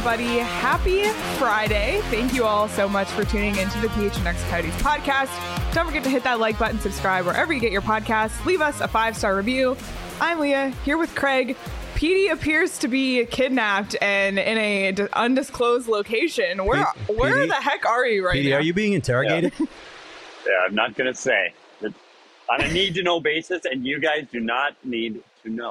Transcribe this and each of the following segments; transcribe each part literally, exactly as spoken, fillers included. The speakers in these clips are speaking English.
everybody. Happy Friday. Thank you all so much for tuning into the P H N X Coyotes podcast. Don't forget to hit that like button, subscribe wherever you get your podcasts. Leave us a five-star review. I'm Leah, here with Craig. Petey appears to be kidnapped and in a d- undisclosed location. Where P- where Petey? the heck are you right Petey, now? are you being interrogated? Yeah, yeah I'm not going to say. It's on a need-to-know basis, and you guys do not need to know.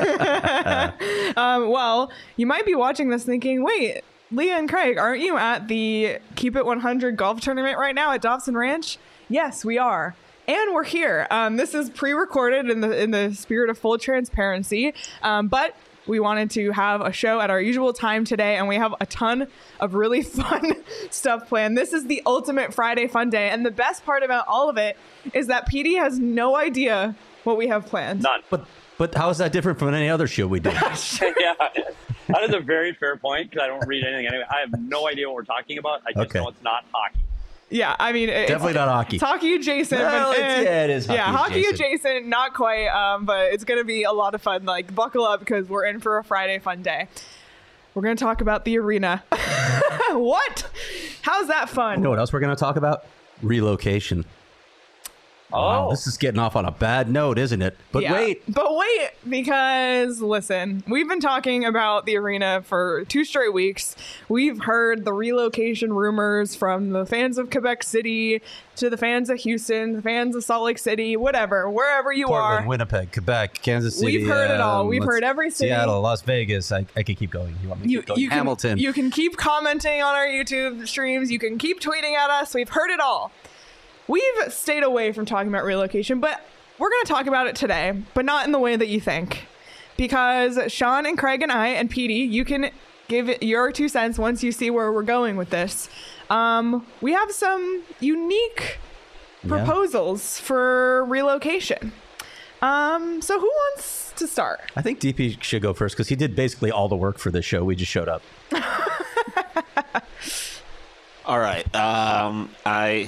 um, well, you might be watching this thinking, wait, Leah and Craig, aren't you at the Keep It one hundred golf tournament right now at Dobson Ranch? Yes, we are. And we're here. Um, this is pre-recorded in the in the spirit of full transparency, um, but we wanted to have a show at our usual time today, and we have a ton of really fun stuff planned. This is the ultimate Friday fun day, and the best part about all of it is that Petey has no idea what we have planned. None. But but how is that different from any other show we do? Yeah, that is a very fair point because I don't read anything anyway. I have no idea what we're talking about. I just Okay. know it's not hockey. Yeah, I mean, it's, Definitely not hockey. It's hockey adjacent. Well, but, it's- eh, yeah, it is hockey Yeah, hockey adjacent. adjacent, not quite, um, but it's going to be a lot of fun. Like, buckle up because we're in for a Friday fun day. We're going to talk about the arena. What? How's that fun? You know what else we're going to talk about? Relocation. Wow, Oh. this is getting off on a bad note, isn't it? But Yeah. wait. But wait, because listen, we've been talking about the arena for two straight weeks. We've heard the relocation rumors from the fans of Quebec City to the fans of Houston, the fans of Salt Lake City, whatever, wherever you Portland, are. Winnipeg, Quebec, Kansas City. We've heard it all. um, We've let's- heard every city. Seattle, Las Vegas. I, I could keep going. You want me to You, keep going? you can, Hamilton. You can keep commenting on our YouTube streams. You can keep tweeting at us. We've heard it all. We've stayed away from talking about relocation, but we're going to talk about it today, but not in the way that you think. Because Sean and Craig and I and Petey, you can give it your two cents once you see where we're going with this. Um, we have some unique Yeah. proposals for relocation. Um, so who wants to start? I think D P should go first because he did basically all the work for this show. We just showed up. All right. Um, I.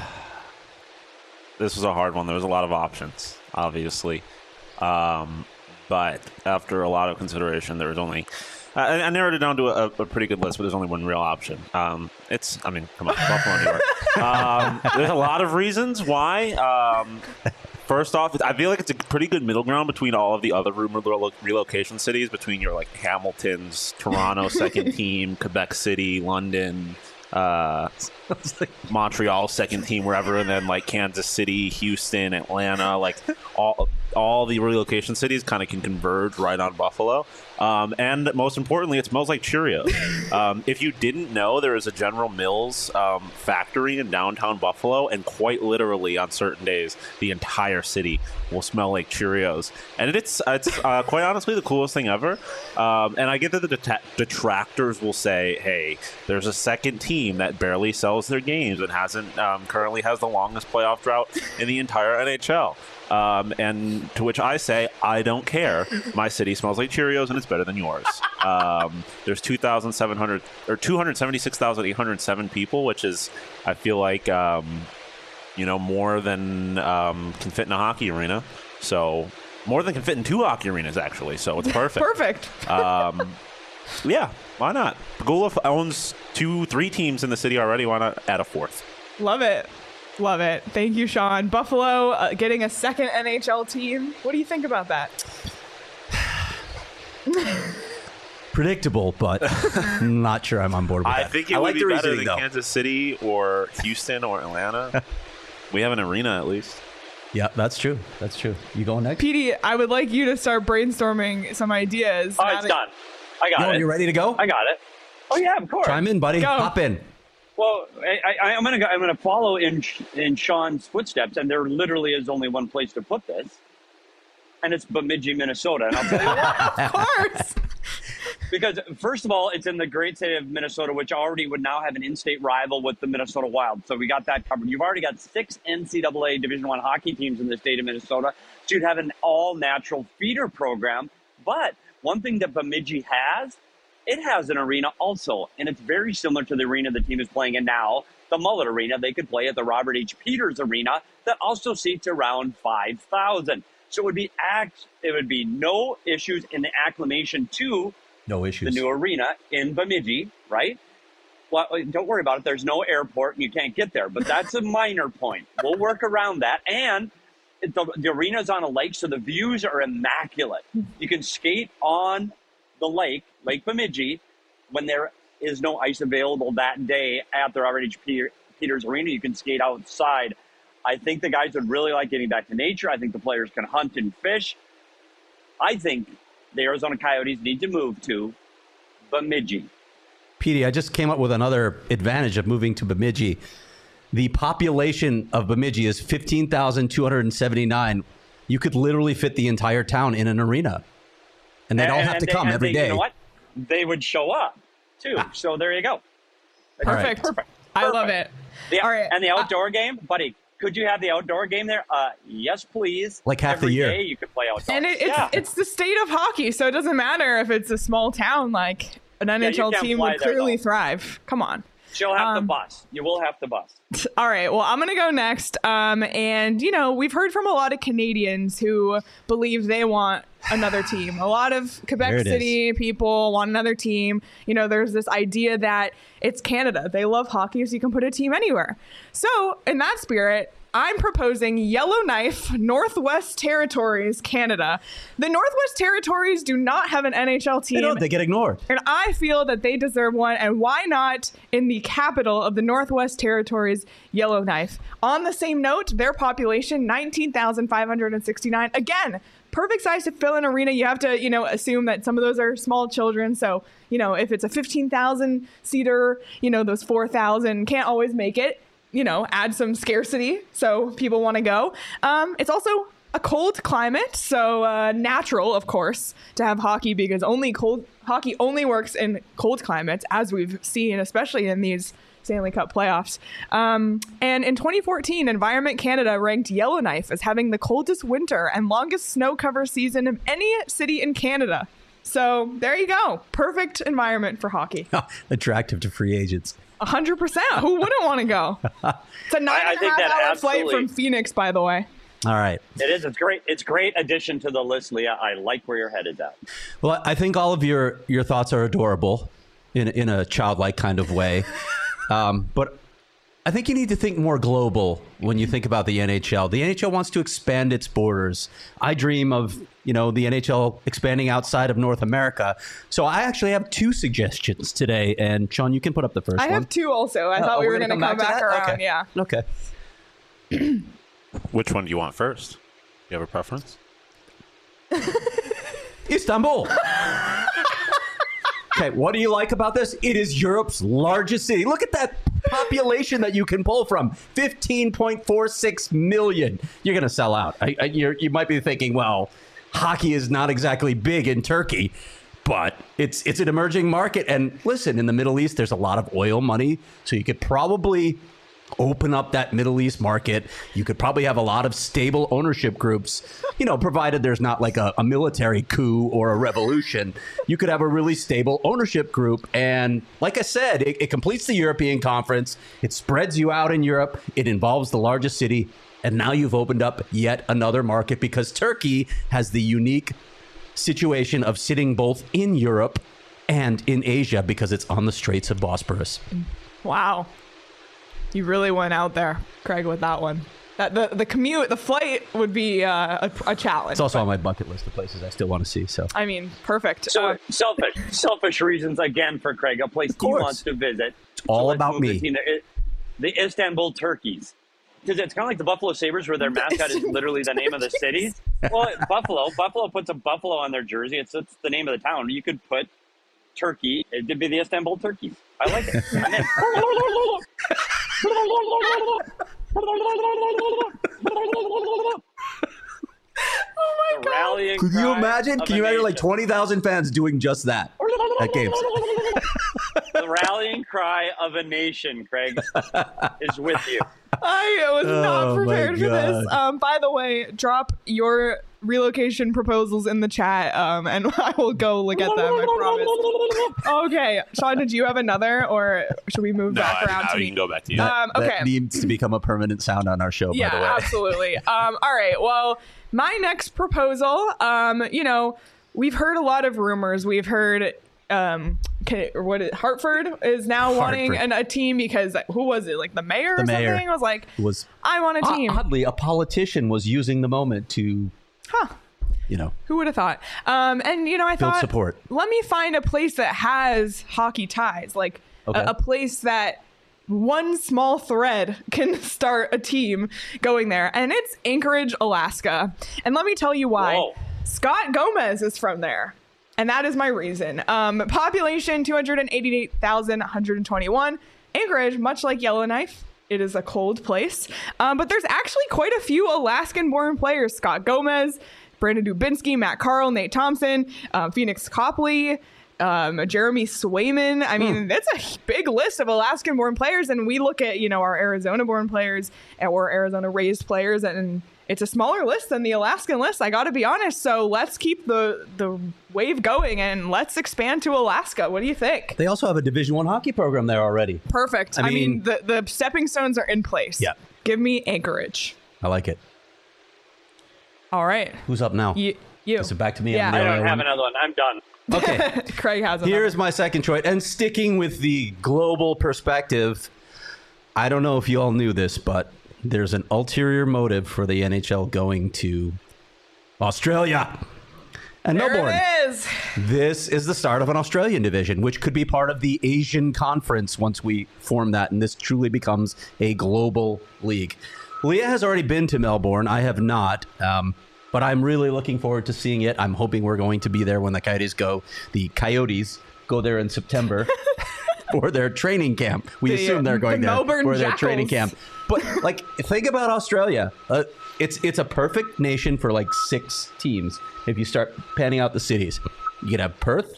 This was a hard one. There was a lot of options, obviously, um, but after a lot of consideration, there was only. I, I narrowed it down to a, a pretty good list, but there's only one real option. Um, it's. I mean, come on, Buffalo, New York. Um, there's a lot of reasons why. Um, First off, I feel like it's a pretty good middle ground between all of the other rumored relo- relocation cities, between your like Hamilton's, Toronto second team, Quebec City, London, uh, Montreal second team, wherever, and then like Kansas City, Houston, Atlanta, like all all the relocation cities kind of can converge right on Buffalo. Um, and most importantly, it smells like Cheerios. Um, if you didn't know, there is a General Mills um, factory in downtown Buffalo, and quite literally on certain days, the entire city will smell like Cheerios. And it's it's uh, quite honestly the coolest thing ever. Um, and I get that the det- detractors will say, hey, there's a second team that barely sells their games and hasn't um, currently has the longest playoff drought in the entire N H L. Um, and to which I say, I don't care. My city smells like Cheerios, and it's better than yours. Um, there's two thousand seven hundred or two hundred seventy-six thousand eight hundred seven people, which is, I feel like, um, you know, more than um, can fit in a hockey arena. So more than can fit in two hockey arenas, actually. So it's perfect. Perfect. Um, yeah, why not? Pagula owns two, three teams in the city already. Why not add a fourth? Love it. Love it. Thank you, Sean. Buffalo uh, getting a second N H L team. What do you think about that? Predictable, but not sure I'm on board with I that. think it I would like be the better reasoning, than though. Kansas City or Houston or Atlanta. We have an arena at least. Yeah, that's true. That's true. You going next? Petey, I would like you to start brainstorming some ideas. Oh, now it's that- done. I got Yo, it. you ready to go? I got it. Oh yeah, of course. Chime in, buddy. Go. Hop in. Well, I, I, I'm gonna go, I'm gonna follow in in Sean's footsteps, and there literally is only one place to put this, and it's Bemidji, Minnesota. And I'll tell you why. Of course. Because first of all, it's in the great state of Minnesota, which already would now have an in-state rival with the Minnesota Wild. So we got that covered. You've already got six N C double A Division One hockey teams in the state of Minnesota. So you'd have an all-natural feeder program. But one thing that Bemidji has, it has an arena also, and it's very similar to the arena the team is playing in now, the Mullet Arena. They could play at the Robert H. Peters Arena that also seats around five thousand. So it would be act. It would be no issues in the acclimation to No the issues. new arena in Bemidji, right? Well, don't worry about it. There's no airport and you can't get there, but that's a minor point. We'll work around that. And the, the arena's on a lake, so the views are immaculate. You can skate on the lake, Lake Bemidji, when there is no ice available that day at the Robert H. Peters Arena. You can skate outside. I think the guys would really like getting back to nature. I think the players can hunt and fish. I think the Arizona Coyotes need to move to Bemidji. Petey, I just came up with another advantage of moving to Bemidji. The population of Bemidji is fifteen thousand two hundred seventy-nine. You could literally fit the entire town in an arena. And they'd all have to they, come every they, day. You know what? They would show up, too. Ah. So there you go. Perfect. Perfect. I love it. The, all right. And the outdoor uh, game, buddy, could you have the outdoor game there? Uh, yes, please. Like half Every the year. Day you could play outdoors. And it, it's, yeah. it's the state of hockey, so it doesn't matter if it's a small town. Like, an N H L yeah, team would there, clearly though. thrive. Come on. She'll have um, to bus. You will have to bus. All right. Well, I'm going to go next. Um, and, you know, we've heard from a lot of Canadians who believe they want another team. A lot of Quebec City is. people want another team. You know, there's this idea that it's Canada. They love hockey, so you can put a team anywhere. So in that spirit, I'm proposing Yellowknife, Northwest Territories, Canada. The Northwest Territories do not have an N H L team. They don't. They get ignored. And I feel that they deserve one. And why not in the capital of the Northwest Territories, Yellowknife? On the same note, their population, nineteen thousand five hundred sixty-nine. Again, perfect size to fill an arena. You have to, you know, assume that some of those are small children. So, you know, if it's a fifteen thousand seater, you know, those four thousand can't always make it. You know, add some scarcity so people want to go. Um, it's also a cold climate, so uh, natural, of course, to have hockey because only cold hockey only works in cold climates, as we've seen, especially in these Stanley Cup playoffs. Um, and in twenty fourteen, Environment Canada ranked Yellowknife as having the coldest winter and longest snow cover season of any city in Canada. So there you go. Perfect environment for hockey. Attractive to free agents. A hundred percent. Who wouldn't want to go? It's a nine I, I and a think half that hour flight absolutely- from Phoenix, by the way. All right. It is. It's great. It's great addition to the list, Leah. I like where your head is at. Well, I think all of your, your thoughts are adorable in, in a childlike kind of way. um, but I think you need to think more global when you think about the N H L. The N H L wants to expand its borders. I dream of, you know, the N H L expanding outside of North America. So I actually have two suggestions today. And Sean, you can put up the first I one. have two also. I Oh, thought we we're were going to gonna come come back, back to that? around. Okay. Yeah. Okay. Which one do you want first? Do you have a preference? Istanbul. Okay, what do you like about this? It is Europe's largest city. Look at that population that you can pull from. fifteen point four six million. You're going to sell out. I, I, you're, you might be thinking, well, hockey is not exactly big in Turkey, but it's it's an emerging market. And listen, in the Middle East, there's a lot of oil money, so you could probably open up that Middle East market. You could probably have a lot of stable ownership groups, you know, provided there's not like a, a military coup or a revolution. You could have a really stable ownership group. And like I said, it, it completes the European conference. It spreads you out in Europe. It involves the largest city. And now you've opened up yet another market because Turkey has the unique situation of sitting both in Europe and in Asia because it's on the Straits of Bosporus. Wow. You really went out there, Craig, with that one. That the, the commute, the flight would be uh, a, a challenge. It's also but, on my bucket list of places I still want to see. So I mean, perfect. So Uh, selfish, selfish reasons again for Craig. A place he course. wants to visit. It's all let's about move me. The, team there. It- the Istanbul Turkeys. Because it's kind of like the Buffalo Sabres, where their mascot is literally the name of the city. Well, Buffalo, Buffalo puts a buffalo on their jersey. It's it's the name of the town. You could put Turkey. It'd be the Istanbul Turkeys. I like it. I'm in. oh my The God. rallying Could you cry imagine? of Can a you imagine like nation. twenty thousand fans doing just that at games? The rallying cry of a nation, Craig, is with you. I was Oh, not my prepared for this. God. Um, by the way, drop your relocation proposals in the chat, um, and I will go look at them. I promise. Okay, Sean, did you have another, or should we move No, back I, around no, to you me? can go back to you. Um, okay. That needs to become a permanent sound on our show, Yeah, by the way. absolutely. Um, all right. Well, my next proposal, um, you know, we've heard a lot of rumors. We've heard um, can, or what is, Hartford is now wanting Hartford. an, a team because who was it? Like the mayor or The mayor something was like, was I want a team. oddly, a politician was using the moment to, Huh. you know, Who would have thought? Um, and you know, I Build thought, support. let me find a place that has hockey ties, like Okay. a, a place that one small thread can start a team going there, and it's Anchorage, Alaska. And let me tell you why. Whoa. Scott Gomez is from there. And that is my reason. Um, population two hundred eighty-eight thousand one hundred twenty-one. Anchorage, much like Yellowknife, it is a cold place. Um, but there's actually quite a few Alaskan-born players. Scott Gomez, Brandon Dubinsky, Matt Carl, Nate Thompson, um, Phoenix Copley, um, Jeremy Swayman. I mean, that's a big list of Alaskan-born players. And we look at, you know, our Arizona-born players or Arizona-raised players, and it's a smaller list than the Alaskan list. I got to be honest. So let's keep the the wave going and let's expand to Alaska. What do you think? they also have a Division One hockey program there already. Perfect. I I mean, mean- the, the stepping stones are in place. Yeah. Give me Anchorage. I like it. All right. Who's up now? You. you. Is it back to me? Yeah. I'm the I only don't have one. another one. I'm done. Okay. Craig has another. Here's my second choice. And sticking with the global perspective, I don't know if you all knew this, but there's an ulterior motive for the N H L going to Australia and There Melbourne. it is. This is the start of an Australian division, which could be part of the Asian Conference once we form that, and this truly becomes a global league. Leah has already been to Melbourne. I have not, um, but I'm really looking forward to seeing it. I'm hoping we're going to be there when the Coyotes go. The Coyotes go there in September for their training camp. We The, assume they're uh, going the there Melbourne for their training Jackals. camp. But like, think about Australia. Uh, it's it's a perfect nation for like six teams. If you start panning out the cities, you could have Perth,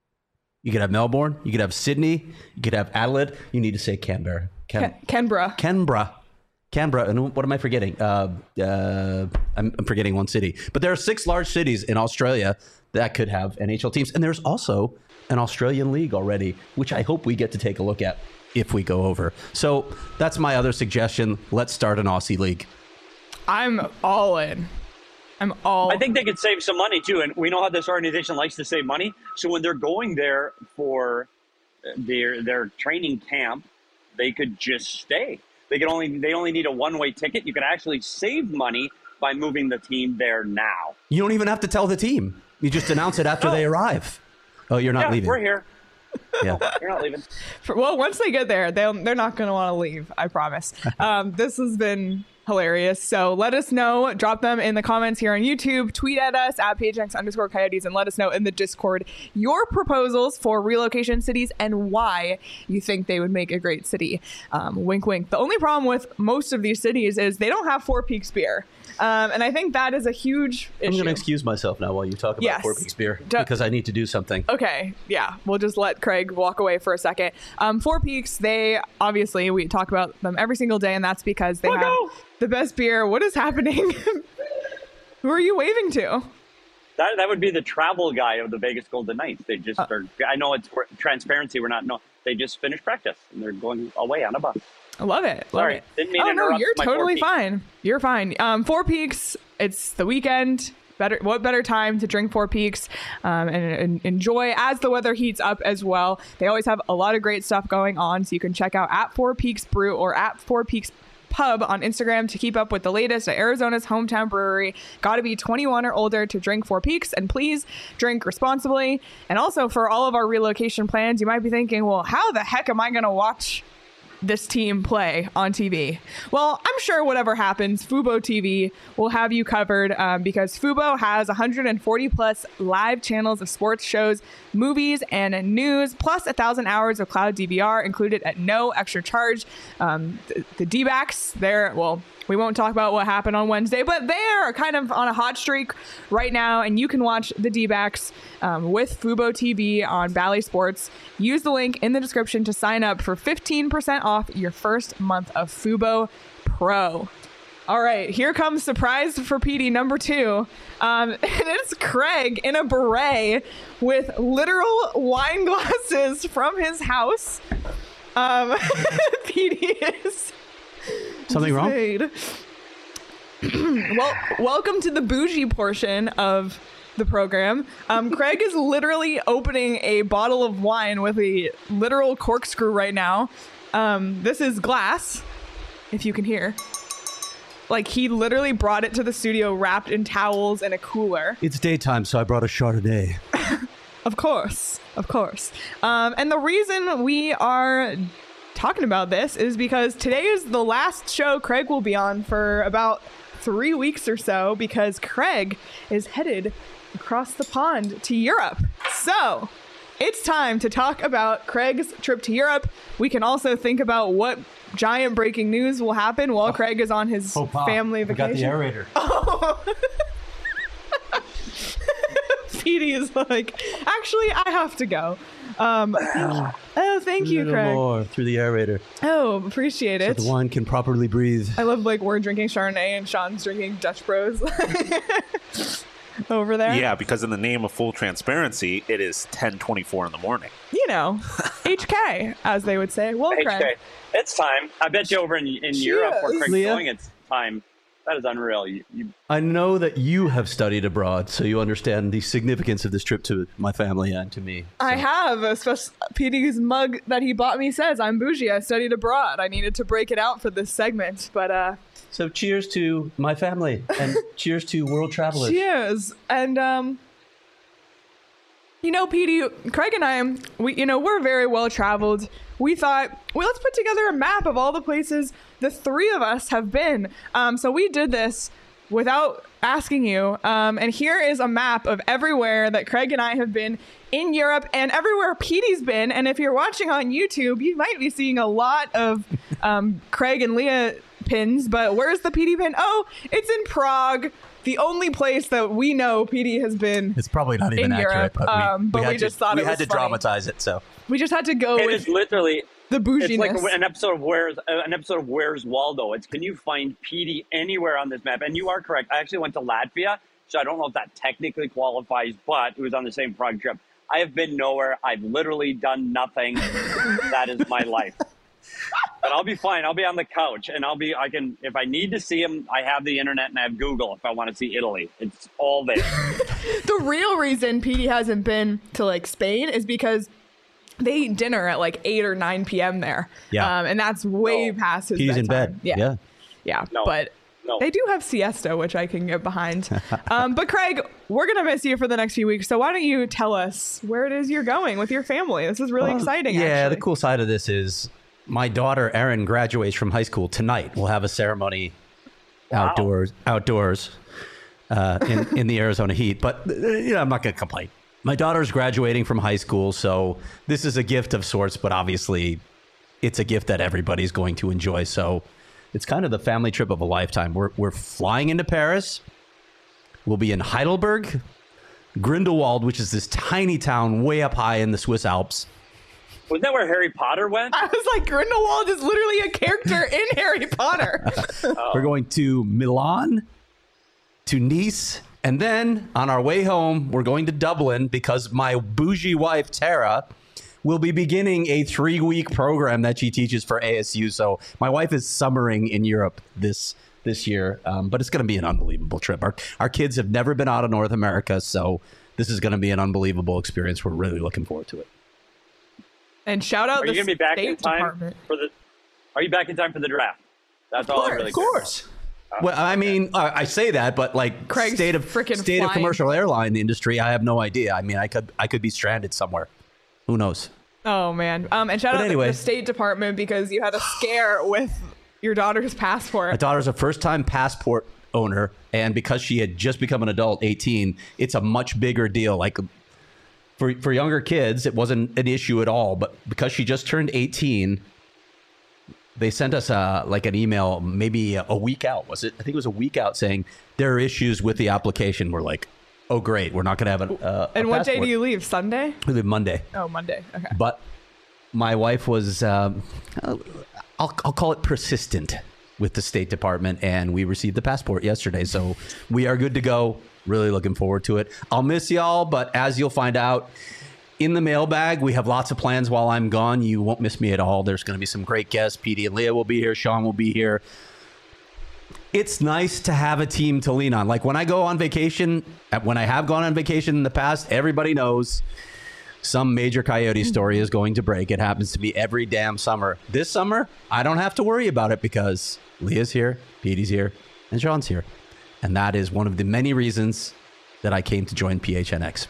you could have Melbourne, you could have Sydney, you could have Adelaide. You need to say Canberra, Can- Ken- Canberra. Canberra, Canberra. And what am I forgetting? Uh, uh, I'm, I'm forgetting one city. But there are six large cities in Australia that could have N H L teams, and there's also an Australian league already, which I hope we get to take a look at if we go over. So that's my other suggestion. Let's start an Aussie league. I'm all in. I'm all. I think they could save some money too, and we know how this organization likes to save money. So when they're going there for their their training camp, they could just stay. They could only they only need a one way ticket. You could actually save money by moving the team there now. You don't even have to tell the team. You just announce it after Oh. they arrive. Oh, you're not yeah, leaving. we're here. Yeah. You're not leaving. For, well, once they get there, they'll, they're not going to want to leave. I promise. Um, this has been hilarious. So let us know. Drop them in the comments here on YouTube. Tweet at us at PHX underscore Coyotes and let us know in the Discord your proposals for relocation cities and why you think they would make a great city. Um, wink, wink. The only problem with most of these cities is they don't have Four Peaks beer. Um, and I think that is a huge issue. I'm going to excuse myself now while you talk about Yes. Four Peaks beer Du- because I need to do something. Okay, yeah, we'll just let Craig walk away for a second. Um, Four Peaks, they obviously we talk about them every single day, and that's because they Oh, have no. the best beer. What is happening? Who are you waving to? That that would be the travel guy of the Vegas Golden Knights. They just Uh. are. I know it's for transparency. We're not. No, they just finished practice and they're going away on a bus. I love it. Love Sorry, it. didn't mean to oh no, interrupt you're my Four totally Peaks. fine. You're fine. Um, Four Peaks. It's the weekend. Better, what better time to drink Four Peaks um, and, and enjoy as the weather heats up as well. They always have a lot of great stuff going on, so you can check out at Four Peaks Brew or at Four Peaks Pub on Instagram to keep up with the latest at Arizona's hometown brewery. Got to be twenty-one or older to drink Four Peaks, and please drink responsibly. And also for all of our relocation plans, you might be thinking, well, how the heck am I going to watch this team play on T V? Well, I'm sure whatever happens, Fubo T V will have you covered um, because Fubo has one hundred forty plus live channels of sports shows, movies, and news, plus a thousand hours of cloud D V R included at no extra charge. Um, the, the D-backs, they're, well, we won't talk about what happened on Wednesday, but they're kind of on a hot streak right now, and you can watch the D-backs um, with Fubo T V on Bally Sports. Use the link in the description to sign up for fifteen percent off your first month of Fubo Pro. All right, here comes surprise for P D number two. Um, and it's Craig in a beret with literal wine glasses from his house. Um, P D is... Something wrong? well, welcome to the bougie portion of the program. Um, Craig is literally opening a bottle of wine with a literal corkscrew right now. Um, this is glass, if you can hear. Like, he literally brought it to the studio wrapped in towels and a cooler. It's daytime, so I brought a Chardonnay. Of course, of course. Um, and the reason we are talking about this is because today is the last show Craig will be on for about three weeks or so, because Craig is headed across the pond to Europe. So it's time to talk about Craig's trip to Europe. We can also think about what giant breaking news will happen while oh. Craig is on his oh, family vacation. I got the aerator. Oh. Petey is like, actually, I have to go. Um, oh, thank you, Craig. More through the aerator. Oh, appreciate it. So the wine can properly breathe. I love, like, we're drinking Chardonnay and Sean's drinking Dutch Bros over there. Yeah, because in the name of full transparency, it is ten twenty-four in the morning. You know, H K, as they would say. Well, Craig. H K. It's time. I bet you over in, in Europe where Craig's Leah? going, it's time. That is unreal. You, you... I know that you have studied abroad, so you understand the significance of this trip to my family and to me. So. I have. Especially Petey's mug that he bought me says, I'm bougie. I studied abroad. I needed to break it out for this segment, but... uh. So cheers to my family and cheers to world travelers. Cheers. And, um... you know, Petey, Craig and I, we, you know, we're very well traveled. We thought, well, let's put together a map of all the places the three of us have been. Um, so we did this without asking you. Um, and here is a map of everywhere that Craig and I have been in Europe and everywhere Petey's been. And if you're watching on YouTube, you might be seeing a lot of um, Craig and Leah pins. But where's the Petey pin? Oh, it's in Prague. The only place that we know Petey has been. It's probably not even in accurate, Europe, but we, um, but we, we had just to, thought we it had was to funny. dramatize it. So we just had to go it with is literally the bouginess. It's like an episode of Where's uh, an episode of Where's Waldo. It's can you find Petey anywhere on this map? And you are correct. I actually went to Latvia, so I don't know if that technically qualifies, but it was on the same Prague trip. I have been nowhere. I've literally done nothing. That is my life. But I'll be fine. I'll be on the couch, and I'll be. I can if I need to see him. I have the internet and I have Google. If I want to see Italy, it's all there. The real reason Petey hasn't been to like Spain is because they eat dinner at like eight or nine p.m. there. Yeah, um, and that's way no. past his. He's bedtime. in bed. Yeah, yeah, yeah. No. But no. They do have siesta, which I can get behind. um, but Craig, we're gonna miss you for the next few weeks. So why don't you tell us where it is you're going with your family? This is really well, exciting. Yeah, actually. The cool side of this is. My daughter, Erin, graduates from high school tonight. We'll have a ceremony wow. outdoors outdoors uh, in, in the Arizona heat. But uh, you know, I'm not going to complain. My daughter's graduating from high school, so this is a gift of sorts, but obviously it's a gift that everybody's going to enjoy. So it's kind of the family trip of a lifetime. We're, we're flying into Paris. We'll be in Heidelberg, Grindelwald, which is this tiny town way up high in the Swiss Alps. Was that where Harry Potter went? I was like, Grindelwald is literally a character in Harry Potter. Oh. We're going to Milan, to Nice, and then on our way home, we're going to Dublin because my bougie wife, Tara, will be beginning a three-week program that she teaches for A S U. So my wife is summering in Europe this this year, um, but it's going to be an unbelievable trip. Our, our kids have never been out of North America, so this is going to be an unbelievable experience. We're really looking forward to it. And shout out are the you gonna be back State in time Department. for the? Are you back in time for the draft? That's all. Of course, I really of course. Oh, well, I mean, uh, I say that, but like Craig's state of frickin' state of flying. commercial airline industry, I have no idea. I mean, I could I could be stranded somewhere. Who knows? Oh man! Um, and shout But out anyway. the State Department because you had a scare with your daughter's passport. My daughter's a first-time passport owner, and because she had just become an adult, eighteen, it's a much bigger deal. Like for for younger kids, it wasn't an issue at all, but because she just turned eighteen, they sent us a like an email maybe a week out. Was it? I think it was a week out saying there are issues with the application. We're like, oh great, we're not going to have an. Uh, and a what passport. day do you leave? Sunday? We leave Monday. Oh, Monday. Okay. But my wife was, um, I'll, I'll call it persistent with the State Department, and we received the passport yesterday. So we are good to go. Really looking forward to it. I'll miss y'all, but as you'll find out in the mailbag, we have lots of plans while I'm gone. You won't miss me at all. There's going to be some great guests. Petey and Leah will be here. Sean will be here. it's nice to have a team to lean on. Like when I go on vacation, when I have gone on vacation in the past, everybody knows some major Coyote story is going to break. It happens to me every damn summer. This summer, I don't have to worry about it because Leah's here, Petey's here, and Sean's here. And that is one of the many reasons that I came to join P H N X.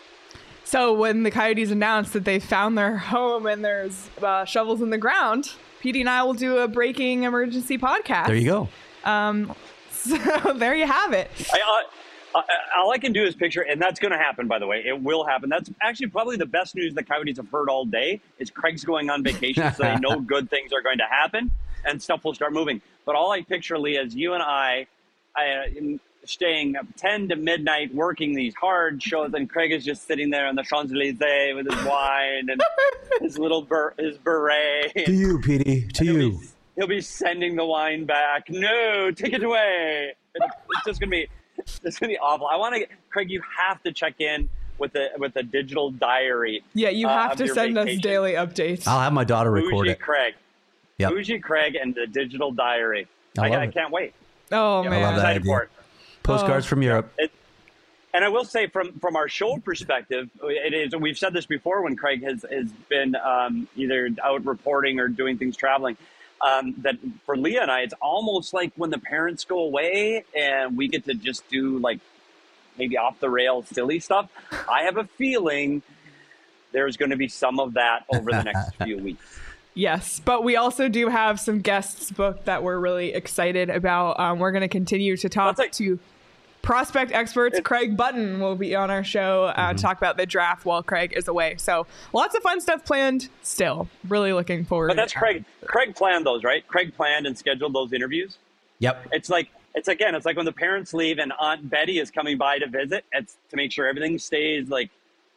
So when the Coyotes announced that they found their home and there's uh, shovels in the ground, Petey and I will do a breaking emergency podcast. There you go. Um, so there you have it. I, uh, uh, all I can do is picture, and that's going to happen, by the way. It will happen. That's actually probably the best news the Coyotes have heard all day is Craig's going on vacation, so they know good things are going to happen and stuff will start moving. But all I picture, Leah, is you and I, I uh, staying up ten to midnight working these hard shows, and Craig is just sitting there on the Champs-Elysees with his wine and his little ber- his beret. To you, Petey. To he'll you. Be, he'll be sending the wine back. No, take it away. It's, it's just gonna be, it's gonna be awful. I want to, Craig. You have to check in with the with a digital diary. Yeah, you have uh, to send vacation. us daily updates. I'll have my daughter record Bougie it. Craig. Yep. Bougie Craig and the digital diary. I I, love I it. can't wait. Oh Yeah, man, I love I'm that excited idea. for it. Postcards Oh. from Europe. It, and I will say, from from our show perspective, it is. We've said this before when Craig has has been um, either out reporting or doing things traveling. Um, that for Leah and I, it's almost like when the parents go away and we get to just do like maybe off the rails silly stuff. I have a feeling there's going to be some of that over the next few weeks. Yes, but we also do have some guests booked that we're really excited about. Um, we're going to continue to talk That's like- to prospect experts. It- Craig Button will be on our show uh, Mm-hmm. to talk about the draft while Craig is away. So lots of fun stuff planned still. Really looking forward. But that's to Craig. Craig planned those, right? Craig planned and scheduled those interviews. Yep. It's like it's again, it's like when the parents leave and Aunt Betty is coming by to visit. It's to make sure everything stays like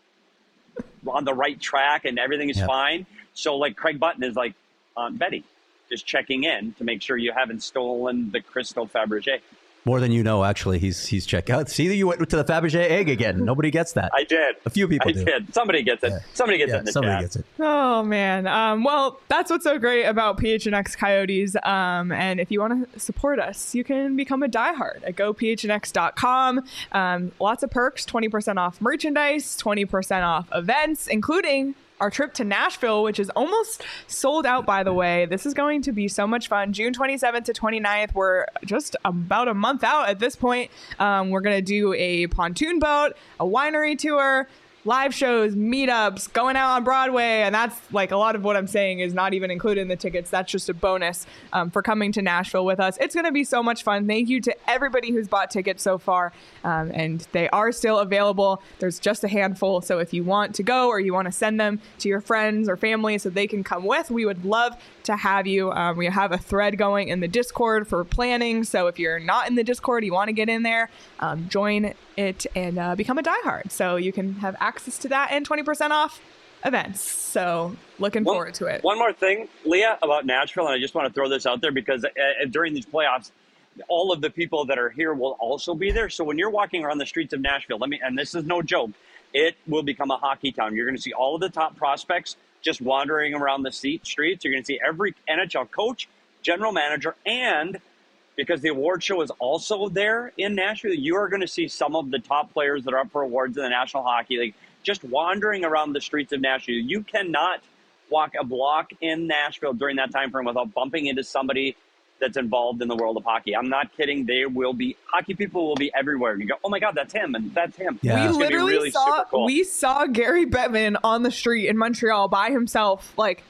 on the right track and everything is Yep. fine. So like Craig Button is like Aunt Betty, just checking in to make sure you haven't stolen the Crystal Fabergé. More than you know, actually. He's he's checked out. See, you went to the Fabergé egg again. Nobody gets that. I did. A few people I do. did. Somebody gets it. Yeah. Somebody gets Yeah, it in the somebody chat. gets it. Oh man. Um, well, that's what's so great about P H N X Coyotes. Um, and if you want to support us, you can become a diehard at go p h n x dot com. Um, lots of perks: twenty percent off merchandise, twenty percent off events, including our trip to Nashville, which is almost sold out, by the way. This is going to be so much fun. June twenty-seventh to twenty-ninth. We're just about a month out at this point. Um, we're going to do a pontoon boat, a winery tour, live shows, meetups, going out on Broadway. And that's like a lot of what I'm saying is not even included in the tickets. That's just a bonus um, for coming to Nashville with us. It's going to be so much fun. Thank you to everybody who's bought tickets so far. Um, and they are still available. There's just a handful. So if you want to go or you want to send them to your friends or family so they can come with, we would love to have you. Um, we have a thread going in the Discord for planning. So if you're not in the Discord, you want to get in there, um, join it and uh, become a diehard. So you can have access to that and twenty percent off events. So looking One- forward to it. One more thing, Leah, about Nashville, and I just want to throw this out there because uh, during these playoffs, all of the people that are here will also be there. So when you're walking around the streets of Nashville, let me, and this is no joke, it will become a hockey town. You're going to see all of the top prospects just wandering around the seat streets. You're going to see every N H L coach, general manager, and because the award show is also there in Nashville, you are going to see some of the top players that are up for awards in the National Hockey League just wandering around the streets of Nashville. You cannot walk a block in Nashville during that time frame without bumping into somebody that's involved in the world of hockey. I'm not kidding. They will be, hockey people will be everywhere. You go, oh my God, that's him, and that's him. Yeah. We It's gonna be literally really saw super cool. we saw Gary Bettman on the street in Montreal by himself, like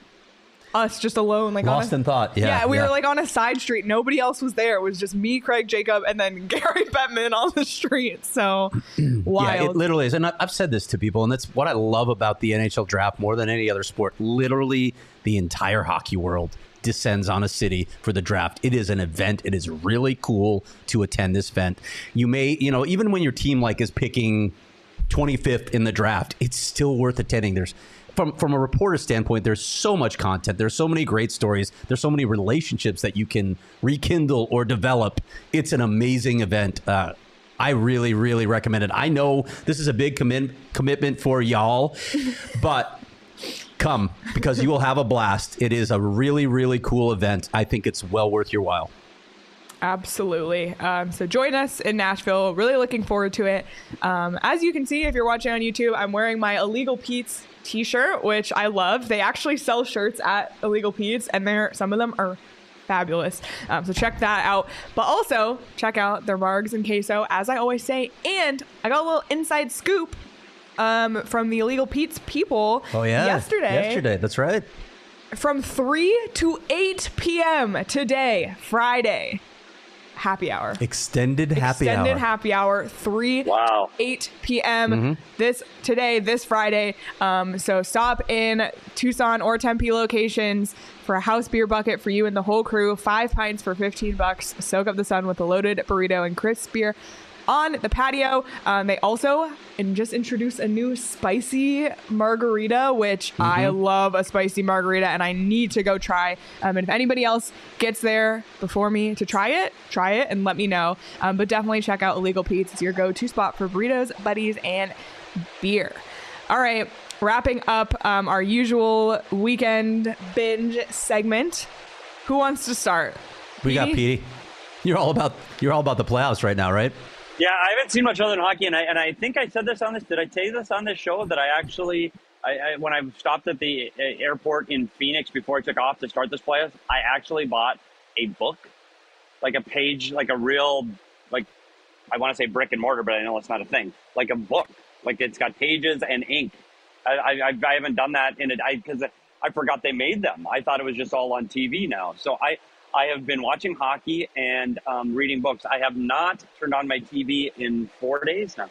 us just alone, like Lost on a, in thought. Yeah. yeah, we yeah. were like on a side street. Nobody else was there. It was just me, Craig, Jacob, and then Gary Bettman on the street. So Yeah, wild. it literally is. And I- I've said this to people, and that's what I love about the N H L draft more than any other sport. Literally, the entire hockey world descends on a city for the draft. It is an event. It is really cool to attend this event. You may, you know, even when your team like is picking twenty-fifth in the draft, it's still worth attending. There's from from a reporter standpoint, there's so much content. There's so many great stories. There's so many relationships that you can rekindle or develop. It's an amazing event. Uh, I really, really recommend it. I know this is a big commit commitment for y'all, but come because you will have a blast. It is a really, really cool event. I think it's well worth your while. Absolutely. Um, so join us in Nashville. Really looking forward to it. Um, as you can see, if you're watching on YouTube, I'm wearing my Illegal Pete's t-shirt, which I love. They actually sell shirts at Illegal Pete's, and they're some of them are fabulous. Um, so check that out. But also check out their margs and queso, as I always say. And I got a little inside scoop um, from the Illegal Pete's people Oh, yeah. yesterday. Yesterday, that's right. From three to eight p.m. today, Friday, happy hour. Extended happy Extended hour. happy hour, three Wow. eight p.m. Mm-hmm. this today, this Friday. Um, so stop in Tucson or Tempe locations for a house beer bucket for you and the whole crew. Five pints for fifteen bucks. Soak up the sun with a loaded burrito and crisp beer on the patio. Um, they also and just introduced a new spicy margarita, which Mm-hmm. I love a spicy margarita and I need to go try. Um, and if anybody else gets there before me to try it, try it and let me know. Um, but definitely check out Illegal Pete's. It's your go-to spot for burritos, buddies, and beer. All right, wrapping up um, our usual weekend binge segment. Who wants to start? We got Petey? Petey. You're all about you're all about the playoffs right now, right? Yeah, I haven't seen much other than hockey, and I and I think I said this on this. Did I tell you this on this show that I actually, I, I when I stopped at the uh, airport in Phoenix before I took off to start this playoffs, I actually bought a book, like a page, like a real, like I want to say brick and mortar, but I know it's not a thing. Like a book, like it's got pages and ink. I I, I haven't done that in it because I, I forgot they made them. I thought it was just all on T V now. So I. I have been watching hockey and um, reading books. I have not turned on my T V in four days now.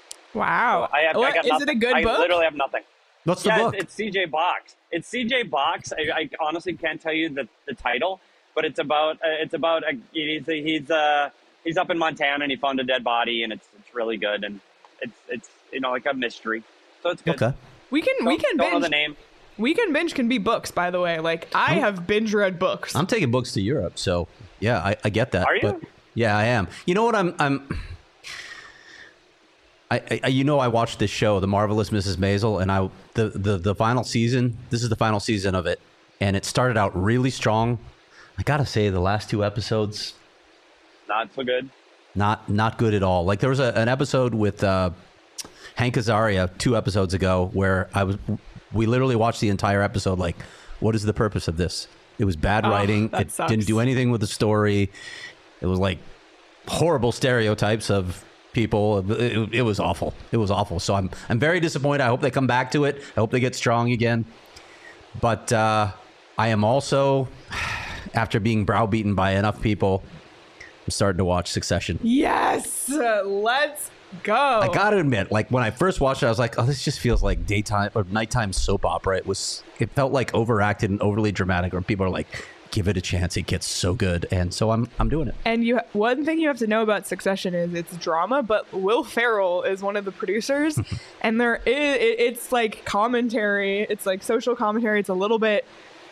Wow. So I have, I What- got is nothing. it a good I book? literally have nothing. What's the yeah, book? It's, it's C J Box. It's C J Box. I, I honestly can't tell you the, the title, but it's about uh, it's about a, he's he's uh he's up in Montana and he found a dead body and it's it's really good and it's it's you know like a mystery. So it's good. Okay. We can Don't, we can don't know the binge. name. Weekend binge can be books, by the way. Like I have binge read books. I'm taking books to Europe, so yeah, I, I get that. Are you? But yeah, I am. You know what? I'm. I'm. I, I you know I watched this show, The Marvelous Missus Maisel, and I the, the the final season. This is the final season of it, and it started out really strong. I gotta say, the last two episodes, Not so good. not not good at all. Like there was a, an episode with uh, Hank Azaria two episodes ago where I was. We literally watched the entire episode. Like, what is the purpose of this? It was bad Oh, writing. that It sucks. didn't do anything with the story. It was like horrible stereotypes of people. It, it, it was awful. It was awful. So I'm I'm very disappointed. I hope they come back to it. I hope they get strong again. But uh, I am also, after being browbeaten by enough people, I'm starting to watch Succession. Yes, uh, let's go. I gotta admit, like when I first watched it, I was like, "Oh, this just feels like daytime or nighttime soap opera." It was, it felt like overacted and overly dramatic. Or people are like, "Give it a chance; it gets so good." And so I'm, I'm doing it. And you, one thing you have to know about Succession is it's drama, but Will Ferrell is one of the producers, and there is it, it's like commentary. It's like social commentary. It's a little bit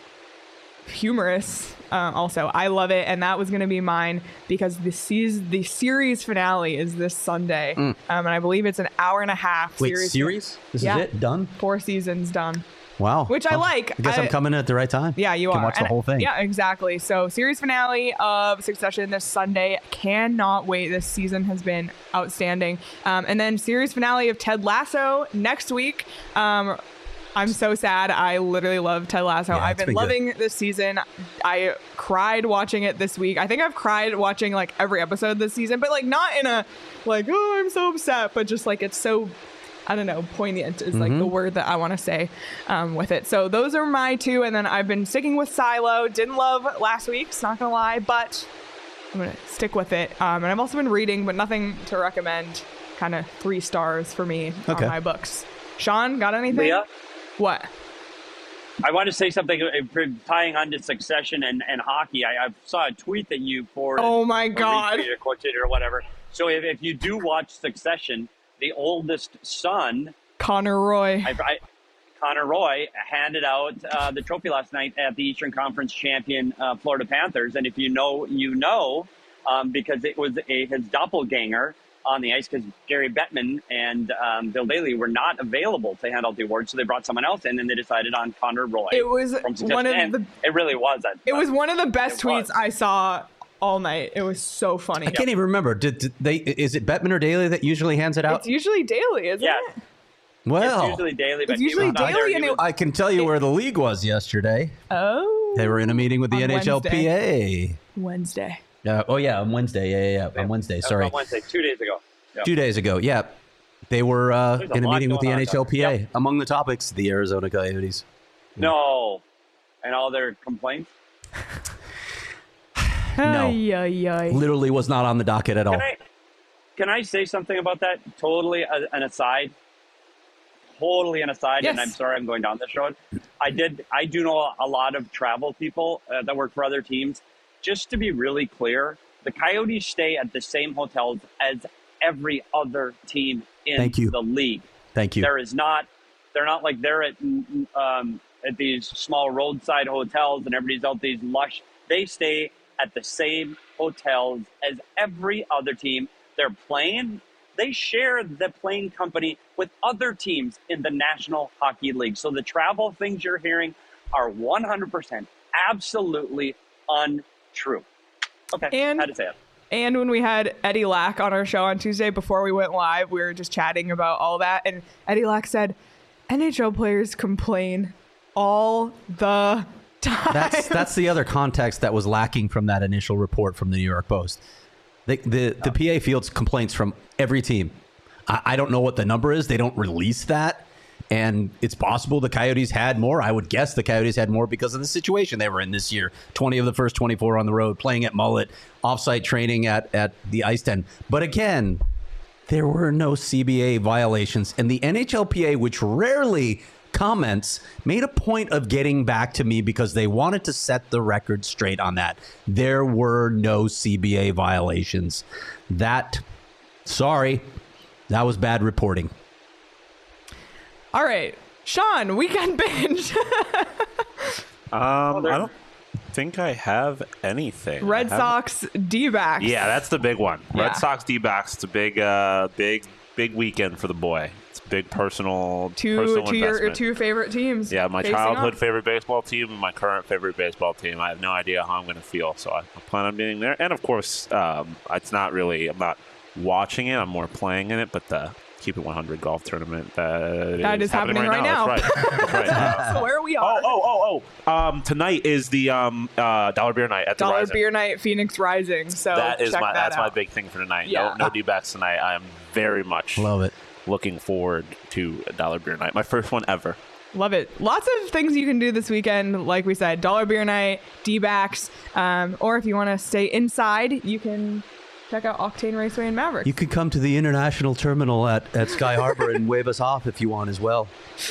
humorous. Uh, also, I love it, and that was going to be mine because the seas the series finale is this Sunday, um, and I believe it's an hour and a half. Wait, series, series? This Yeah. is it? Done? Four seasons done. Wow. Which I Well, like. I guess I, I- am coming in at the right time. Yeah, you Can are. watch the And- whole thing. Yeah, exactly. So, series finale of Succession this Sunday. Cannot wait. This season has been outstanding. Um, and then series finale of Ted Lasso next week. Um, I'm so sad. I literally love Ted Lasso. Yeah, I've it's been been good. loving this season. I cried watching it this week. I think I've cried watching like every episode this season, but like not in a like, oh, I'm so upset, but just like it's so, I don't know, poignant is like the word that I want to say um, with it. So those are my two. And then I've been sticking with Silo. Didn't love last week's, not gonna lie, but I'm gonna stick with it. Um, and I've also been reading, but nothing to recommend. Kind of three stars for me Okay. on my books. Sean, got anything? Leah? What? I want to say something uh, tying on to Succession and, and hockey. I, I saw a tweet that you forwarded. Oh my or God. retweeted or quoted or whatever. So if, if you do watch Succession, the oldest son, Connor Roy. I, I, Connor Roy, handed out uh, the trophy last night at the Eastern Conference champion uh, Florida Panthers. And if you know, you know, um, because it was a, his doppelganger on the ice because Gary Bettman and um, Bill Daly were not available to hand out the award, so they brought someone else in, and they decided on Connor Roy. It was from Succession. one of And the- It really was. That, It was one of the best It tweets was. I saw all night. It was so funny. I can't even remember. Did, did they? Is it Bettman or Daly that usually hands it out? It's usually daily, isn't Yeah. it? Well, It's usually daily, but It's he usually was not there. daily, He and was- it- I can tell you where the league was yesterday. Oh. They were in a meeting with the On N H L P A. Wednesday. Uh, oh yeah, on Wednesday. Yeah, yeah, yeah. on Wednesday. That was Sorry, on Wednesday, two days ago. Yeah. two days ago. Yeah, they were uh, There's a in a lot meeting with the going on N H L P A. Yep. Among the topics, the Arizona Coyotes. No. And all their complaints. No. Ay, ay, ay. Literally was not on the docket at all. Can I, can I say something about that? Totally a, an aside. Totally an aside, Yes. and I'm sorry I'm going down this road. I did. I do know a lot of travel people uh, that work for other teams. Just to be really clear, the Coyotes stay at the same hotels as every other team in Thank you. the league. Thank you. There is not. They're not like they're at um, at these small roadside hotels and everybody's out these lush. They stay at the same hotels as every other team. They're playing. They share the plane company with other teams in the National Hockey League. So the travel things you're hearing are one hundred percent absolutely untrue. Okay, And- had to say it. And when we had Eddie Lack on our show on Tuesday before we went live, we were just chatting about all that. And Eddie Lack said, N H L players complain all the time. That's that's the other context that was lacking from that initial report from the New York Post. The the, the P A fields complaints from every team. I, I don't know what the number is. They don't release that. And it's possible the Coyotes had more. I would guess the Coyotes had more because of the situation they were in this year. twenty of the first twenty-four on the road, playing at Mullet, offsite training at, at the Ice Den. But again, there were no C B A violations. And the N H L P A, which rarely comments, made a point of getting back to me because they wanted to set the record straight on that. There were no C B A violations. That, sorry, that was bad reporting. All right. Sean, weekend binge. Um, there- I don't think I have anything. Red I haven't- Sox D-backs. Yeah, that's the big one. Yeah. Red Sox D-backs. It's a big, uh, big, big weekend for the boy. It's a big personal, two personal two your investment. two favorite teams. Yeah, my facing childhood off. favorite baseball team and my current favorite baseball team. I have no idea how I'm going to feel, so I plan on being there. And of course, um, it's not really. I'm not watching it. I'm more playing in it. But the Keep It one hundred golf tournament uh, That is happening right now. That's right. That's right. Uh, So where we oh, are. oh, oh, oh! Um, tonight is the um, uh, Dollar Beer Night at the Dollar Rising. Beer Night, Phoenix Rising. So That is check my that that's my out. big thing for tonight. Yeah. No, no D-backs tonight. I am very much Love it. looking forward to a Dollar Beer Night. My first one ever. Love it. Lots of things you can do this weekend. Like we said, Dollar Beer Night, D-backs, um, or if you want to stay inside, you can check out Octane Raceway and Maverick. You could come to the international terminal at, at Sky Harbor and wave us off if you want as well.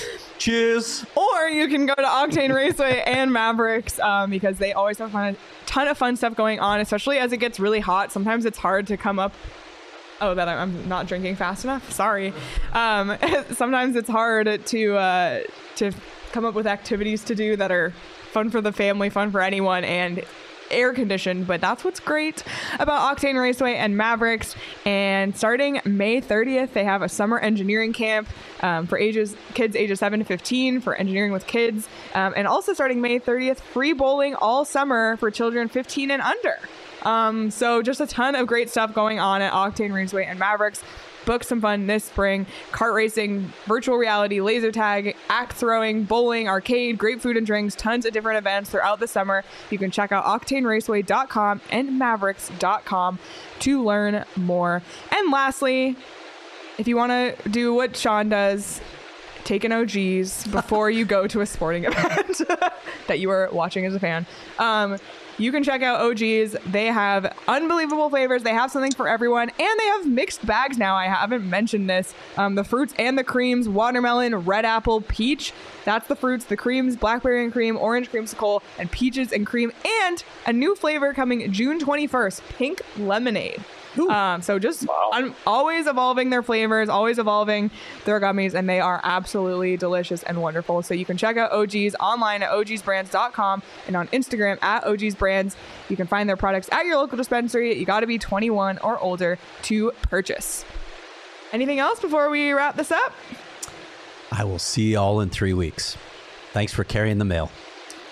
Cheers. Or you can go to Octane Raceway and Mavericks um, because they always have fun, a ton of fun stuff going on, especially as it gets really hot. Sometimes it's hard to come up. Oh, that I'm not drinking fast enough. Sorry. Um, sometimes it's hard to uh, to come up with activities to do that are fun for the family, fun for anyone, and air conditioned. But that's what's great about Octane Raceway and Mavericks. And starting May thirtieth, they have a summer engineering camp um, for ages kids ages seven to fifteen for engineering with kids. Um, and also starting May thirtieth, free bowling all summer for children fifteen and under. Um, so just a ton of great stuff going on at Octane Raceway and Mavericks. Book some fun this spring. Kart racing, virtual reality, laser tag, axe throwing, bowling, arcade, great food and drinks, tons of different events throughout the summer. You can check out octane raceway dot com and mavericks dot com to learn more. And lastly, if you want to do what Sean does, take an O G's before you go to a sporting event that you are watching as a fan. Um, you can check out O G's. They have unbelievable flavors. They have something for everyone. And they have mixed bags now. I haven't mentioned this. Um, the fruits and the creams, watermelon, red apple, peach. That's the fruits, the creams, blackberry and cream, orange creamsicle, and peaches and cream. And a new flavor coming June twenty-first, pink lemonade. Um, so just Wow. un- always evolving their flavors, always evolving their gummies, and they are absolutely delicious and wonderful. So you can check out O G's online at o g s brands dot com and on Instagram at O G's Brands. You can find their products at your local dispensary. You got to be twenty-one or older to purchase. Anything else before we wrap this up? I will see you all in three weeks. Thanks for carrying the mail.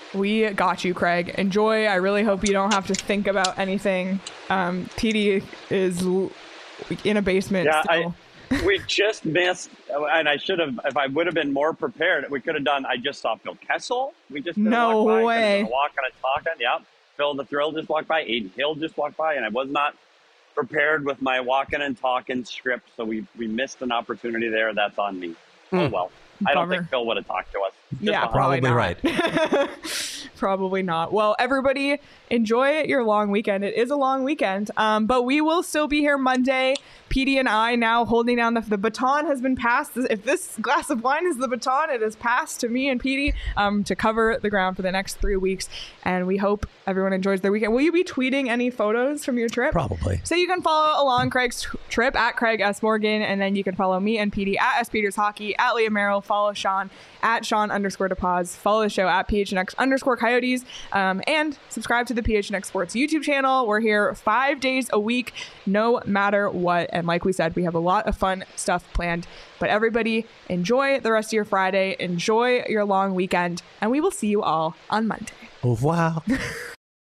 We got you, Craig. Enjoy. I really hope you don't have to think about anything. Um, P D is l- in a basement Yeah, still. I, we just missed, and I should have, if I would have been more prepared, we could have done, I just saw Phil Kessel. We just did a No walk by, way. walking and talking. Yep. Phil the Thrill just walked by. Aiden Hill just walked by, and I was not prepared with my walking and talking script, so we, we missed an opportunity there. That's on me. Oh, well. I don't Bummer. think Phil would have talked to us. Just Yeah, behind. probably, Probably not. right. Probably not. Well, everybody, enjoy your long weekend. It is a long weekend, um, but we will still be here Monday. P D and I now holding down the, the baton has been passed. If this glass of wine is the baton, it is passed to me and P D um, to cover the ground for the next three weeks. And we hope everyone enjoys their weekend. Will you be tweeting any photos from your trip? Probably. So you can follow along Craig's t- trip at Craig S. Morgan, and then you can follow me and P D at S. Peters Hockey, at Leah Merrill, follow Sean at Sean underscore DePaz, follow the show at P H N X underscore Coyotes, um, and subscribe to the P H N X Sports YouTube channel. We're here five days a week, no matter what. And like we said, we have a lot of fun stuff planned. But everybody, enjoy the rest of your Friday, enjoy your long weekend, and we will see you all on Monday. Au revoir.